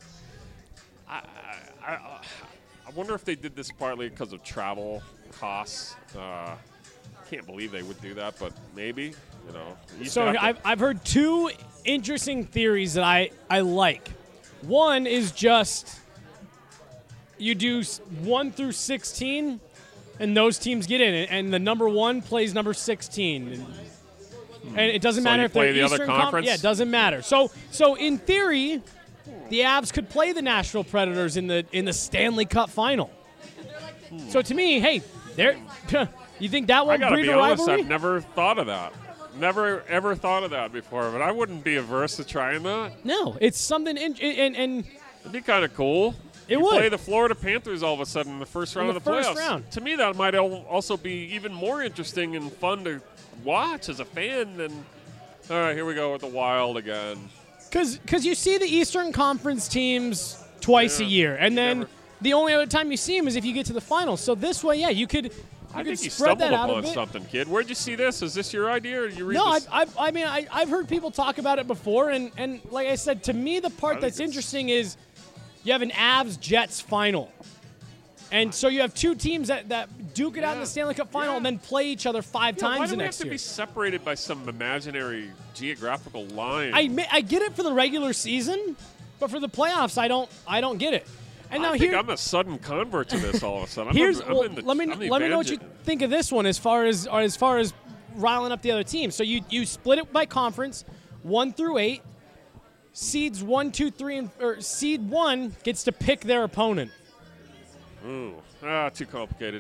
I wonder if they did this partly because of travel costs. Can't believe they would do that, but maybe. So I've heard 2 interesting theories that I like. One is just you do 1 through 16, and those teams get in, and the number 1 plays number 16, and it doesn't matter if they're the Eastern other conference. Yeah, it doesn't matter. So in theory, the Avs could play the Nashville Predators in the Stanley Cup final. So to me, hey, You think that I will gotta breed be a honest, rivalry? I've never thought of that. Never ever thought of that before, but I wouldn't be averse to trying that. No, it's something, and It'd be kind of cool. It you would. play the Florida Panthers all of a sudden in the first round In of the the first playoffs. round. To me, that might also be even more interesting and fun to watch as a fan than. All right, here we go with the Wild again. because you see the Eastern Conference teams twice a year, and then the only other time you see them is if you get to the finals. So this way, yeah, you could. I think you spread stumbled that out a upon bit. something, kid. Where'd you see this? Is this your idea, or you read No, this? I've heard people talk about it before, and like I said, to me, the part that's interesting is you have an Avs-Jets final. And so you have two teams that duke it out in the Stanley Cup final and then play each other five times why the do we next have to year. be separated by some imaginary geographical line? I get it for the regular season, but for the playoffs, I don't get it. And now I think I'm a sudden convert to this all of a sudden. let me know what you think of this one as far as riling up the other team. So you split it by conference, 1 through 8. Seeds 1, 2, 3, or seed 1 gets to pick their opponent. Ooh, too complicated.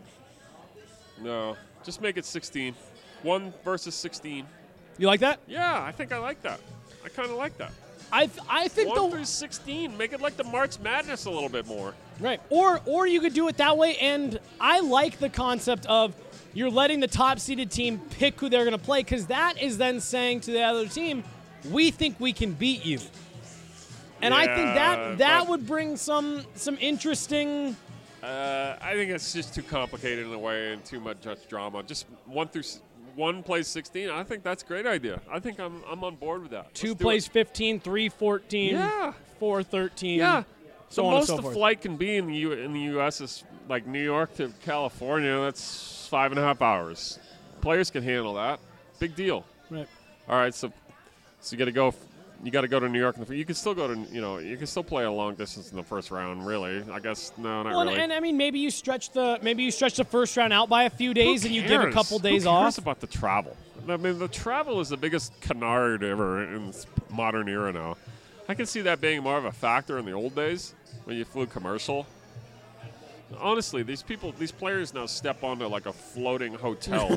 No, just make it 16. 1 versus 16. You like that? Yeah, I think I like that. I kind of like that. I think 1 through 16. Make it like the March Madness a little bit more. Right. Or you could do it that way, and I like the concept of you're letting the top-seeded team pick who they're going to play, because that is then saying to the other team, we think we can beat you. And I think that would bring some interesting. I think it's just too complicated in a way and too much drama. Just 1 plays 16. I think that's a great idea. I think I'm on board with that. 2 plays 15, 3 14, 4 13. Yeah. So the on and most so the forth. flight can be in the U.S. is like New York to California. That's 5.5 hours. Players can handle that. Big deal. Right. All right. So you got to go. You got to go to New York. You can still go to. You can still play a long distance in the first round. Really, I guess no, not really. And I mean, maybe you stretch the first round out by a few days, and you give a couple days Who cares off. about the travel? I mean, the travel is the biggest canard ever in this modern era now. I can see that being more of a factor in the old days when you flew commercial. Honestly, these players now step onto like a floating hotel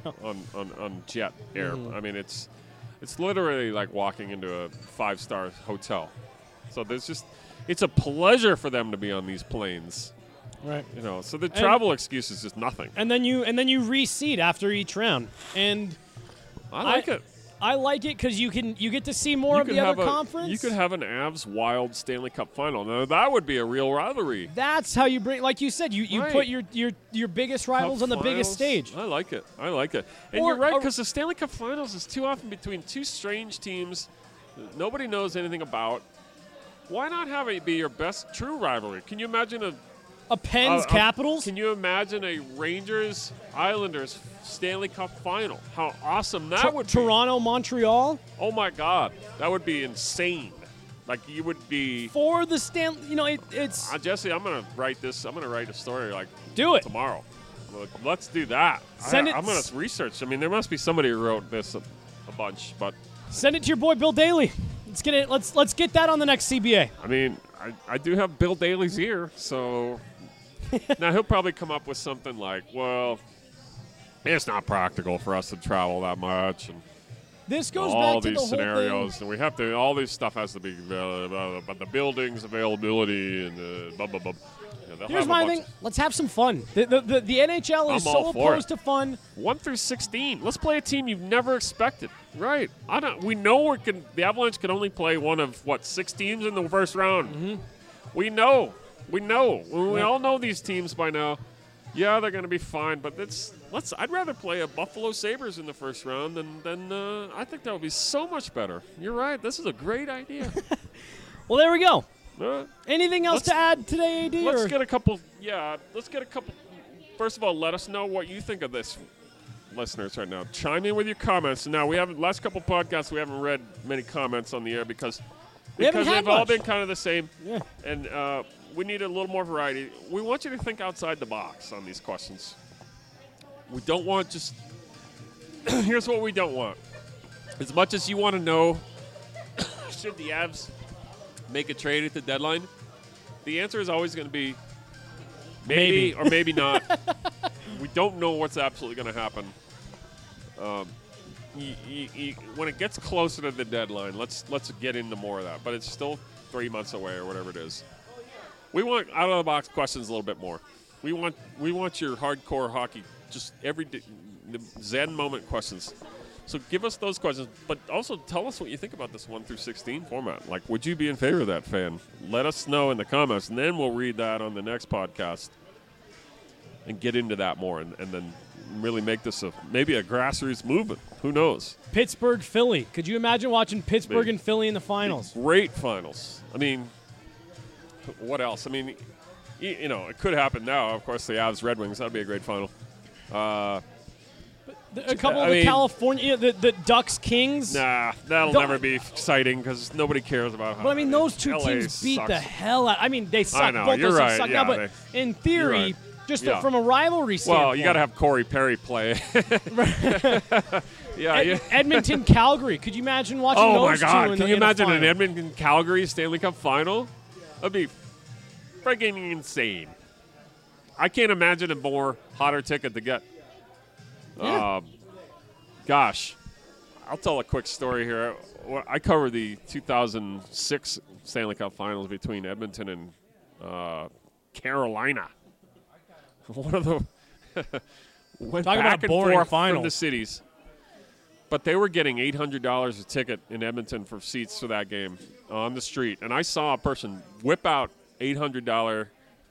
on jet air. I mean, it's literally like walking into a 5-star hotel. So it's a pleasure for them to be on these planes. Right. So the travel excuse is just nothing. And then you reseed after each round. And I like it. I like it because you get to see more of the other conference. You could have an Avs Wild Stanley Cup final. Now that would be a real rivalry. That's how you bring, like you said, you put your biggest rivals Cup on the biggest finals. stage. I like it. And you're right, because the Stanley Cup finals is too often between two strange teams that nobody knows anything about. Why not have it be your best true rivalry? Can you imagine a Pens Capitals? Can you imagine a Rangers Islanders Stanley Cup final? How awesome that would be. Toronto Montreal? Oh my God, that would be insane. Like you would be for the Stanley. It's Jesse. I'm gonna write this. I'm gonna write a story like do it tomorrow. Let's do that. I'm gonna research. I mean, there must be somebody who wrote this a bunch, but send it to your boy Bill Daly. Let's get it. Let's get that on the next CBA. I mean, I do have Bill Daly's ear, so now he'll probably come up with something like, well, it's not practical for us to travel that much, and this goes all back to these the scenarios, and we have to. All this stuff has to be, but the buildings availability and blah blah blah. Yeah, here's my thing. Let's have some fun. The NHL is so opposed to fun. 1 through 16. Let's play a team you've never expected. Right. We know the Avalanche can only play one of 6 teams in the first round. Mm-hmm. We know. We all know these teams by now. Yeah, they're going to be fine, but I'd rather play a Buffalo Sabres in the first round than I think that would be so much better. You're right. This is a great idea. Well, there we go. Anything else to add today, AD? Let's get a couple. First of all, let us know what you think of this, listeners, right now. Chime in with your comments. Now, last couple podcasts, we haven't read many comments on the air because they've all been kind of the same. Yeah. And we need a little more variety. We want you to think outside the box on these questions. We don't want just. Here's what we don't want. As much as you want to know, should the Avs make a trade at the deadline, the answer is always going to be maybe or maybe not. we don't know what's absolutely going to happen. When it gets closer to the deadline, let's get into more of that. But it's still 3 months away or whatever it is. We want out of the box questions a little bit more. We want your hardcore hockey, just the Zen moment questions. So give us those questions, but also tell us what you think about this 1 through 16 format. Like, would you be in favor of that, fan? Let us know in the comments, and then we'll read that on the next podcast and get into that more, and then really make this maybe a grassroots movement. Who knows? Pittsburgh, Philly. Could you imagine watching Pittsburgh and Philly in the finals? Great finals. I mean, what else? I mean, it could happen now. Of course, the Avs Red Wings. That would be a great final. A couple of the California, the Ducks Kings. Nah, that'll never be exciting because nobody cares about how. But I mean, those two LA teams beat sucks. the hell out. I mean, they suck. I know, both you're those teams right. suck Yeah, now, but in theory, just Yeah. from a rivalry standpoint. Well, you got to have Corey Perry play. Edmonton, Calgary. Could you imagine watching Oh those my God! two? Can you imagine an Edmonton Calgary Stanley Cup final? That'd be freaking insane. I can't imagine a more hotter ticket to get. Yeah. Gosh, I'll tell a quick story here. I covered the 2006 Stanley Cup Finals between Edmonton and Carolina. One of the went Talk back about and boring forth finals. from the cities. But they were getting $800 a ticket in Edmonton for seats for that game on the street. And I saw a person whip out eight $100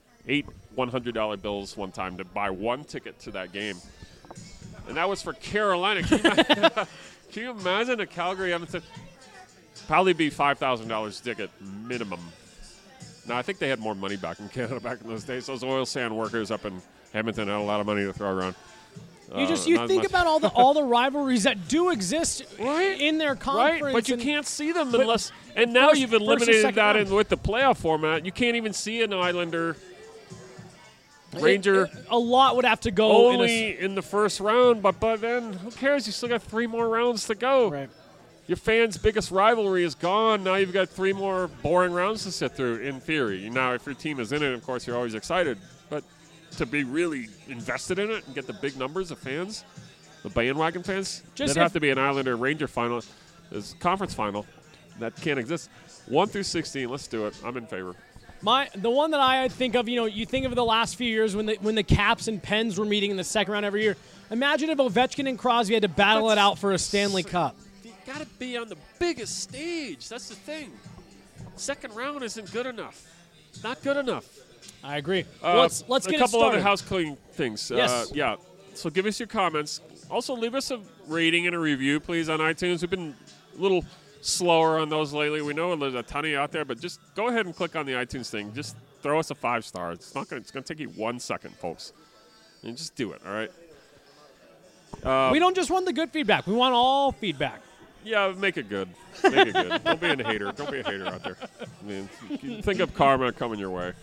bills one time to buy one ticket to that game. And that was for Carolina. Can you imagine a Calgary Edmonton? Probably be $5,000 a ticket minimum. Now, I think they had more money back in Canada back in those days. Those oil sand workers up in Edmonton had a lot of money to throw around. You think about all the rivalries that do exist in their conference, right? But you can't see them unless. And now you've eliminated that with the playoff format. You can't even see an Islander Ranger. A lot would have to go only in the first round, but then who cares? You still got 3 more rounds to go. Right. Your fans' biggest rivalry is gone. Now you've got 3 more boring rounds to sit through, in theory. Now, if your team is in it, of course, you're always excited. But to be really invested in it and get the big numbers of fans, the bandwagon fans, there'd have to be an Islander Ranger final, this conference final. That can't exist. 1 through 16, let's do it. I'm in favor. The one that I think of, you think of the last few years when the Caps and Pens were meeting in the second round every year. Imagine if Ovechkin and Crosby had to battle it out for a Stanley Cup. You got to be on the biggest stage. That's the thing. Second round isn't good enough. Not good enough. I agree. Let's get it started. A couple other house cleaning things. Yes. Yeah. So give us your comments. Also, leave us a rating and a review, please, on iTunes. We've been a little slower on those lately. We know there's a ton of you out there, but just go ahead and click on the iTunes thing. Just throw us a 5-star. It's going to take you 1 second, folks. And just do it, all right? We don't just want the good feedback. We want all feedback. Yeah, make it good. Make it good. Don't be a hater. Don't be a hater out there. I mean, think of karma coming your way.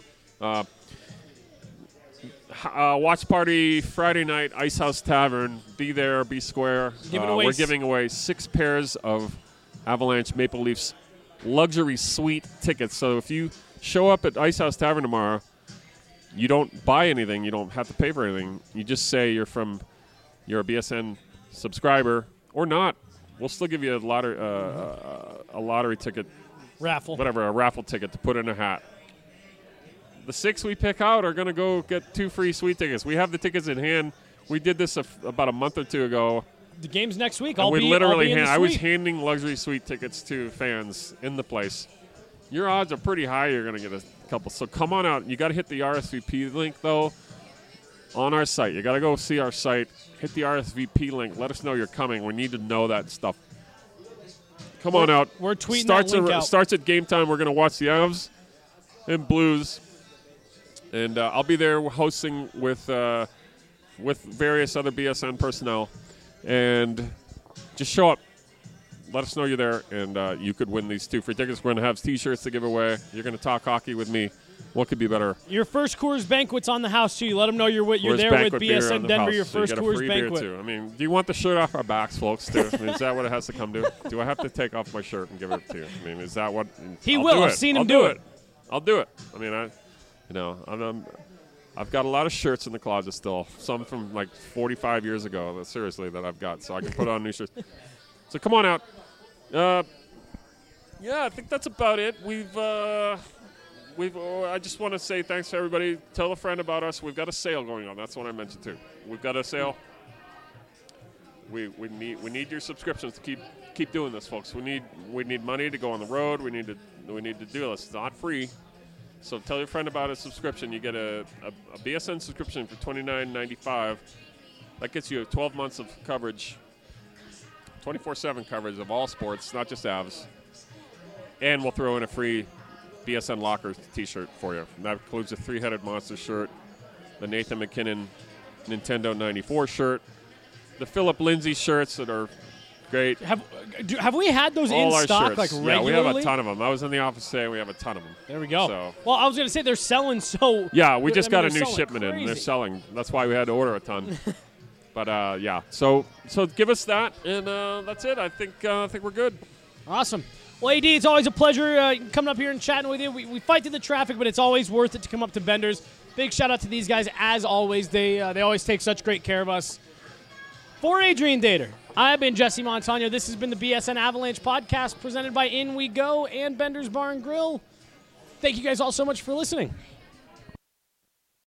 Watch party Friday night, Ice House Tavern. Be there, be square. We're giving away 6 pairs of Avalanche Maple Leafs luxury suite tickets. So if you show up at Ice House Tavern tomorrow, you don't buy anything. You don't have to pay for anything. You just say you're a BSN subscriber or not. We'll still give you a lottery ticket. Raffle. Whatever, a raffle ticket to put in a hat. The 6 we pick out are going to go get 2 free suite tickets. We have the tickets in hand. We did this about a month or 2 ago. The game's next week. I was handing luxury suite tickets to fans in the place. Your odds are pretty high you're going to get a couple. So come on out. You got to hit the RSVP link, though, on our site. You got to go see our site. Hit the RSVP link. Let us know you're coming. We need to know that stuff. Come on out. We're tweeting that link out. Starts at game time. We're going to watch the Avs and Blues. And I'll be there hosting with various other BSN personnel. And just show up. Let us know you're there, and you could win these 2 free tickets. We're going to have T-shirts to give away. You're going to talk hockey with me. What could be better? Your first Coors Banquet's on the house, too. You let them know you're there with BSN Denver, your first Coors Banquet. Too. I mean, do you want the shirt off our backs, folks, too? I mean, is that what it has to come to? Do I have to take off my shirt and give it to you? I mean, is that what? He will. I've seen him do it. I'll do it. I mean, I've got a lot of shirts in the closet still. Some from like 45 years ago, seriously, that I've got. So I can put on new shirts. So come on out. Yeah, I think that's about it. I just want to say thanks to everybody. Tell a friend about us. We've got a sale going on. That's what I mentioned too. We've got a sale. We need your subscriptions to keep doing this, folks. We need money to go on the road. We need to do this. It's not free. So tell your friend about a subscription. You get a BSN subscription for $29.95. That gets you 12 months of coverage, 24/7 coverage of all sports, not just Avs. And we'll throw in a free BSN Lockers t-shirt for you. And that includes a Three-Headed Monster shirt, the Nathan McKinnon Nintendo 94 shirt, the Philip Lindsay shirts that are great. Have we had those all in our stock shirts. like regularly? Yeah, we have a ton of them. I was in the office today. We have a ton of them. There we go. So. Well, I was going to say they're selling so. Yeah, we just got a they're new selling shipment in. crazy. They're selling. That's why we had to order a ton. But yeah, so give us that, and that's it. I think we're good. Awesome. Well, AD, it's always a pleasure coming up here and chatting with you. We fight through the traffic, but it's always worth it to come up to Bender's. Big shout out to these guys as always. They always take such great care of us. For Adrian Dater, I've been Jesse Montano. This has been the BSN Avalanche podcast presented by In We Go and Bender's Bar and Grill. Thank you guys all so much for listening.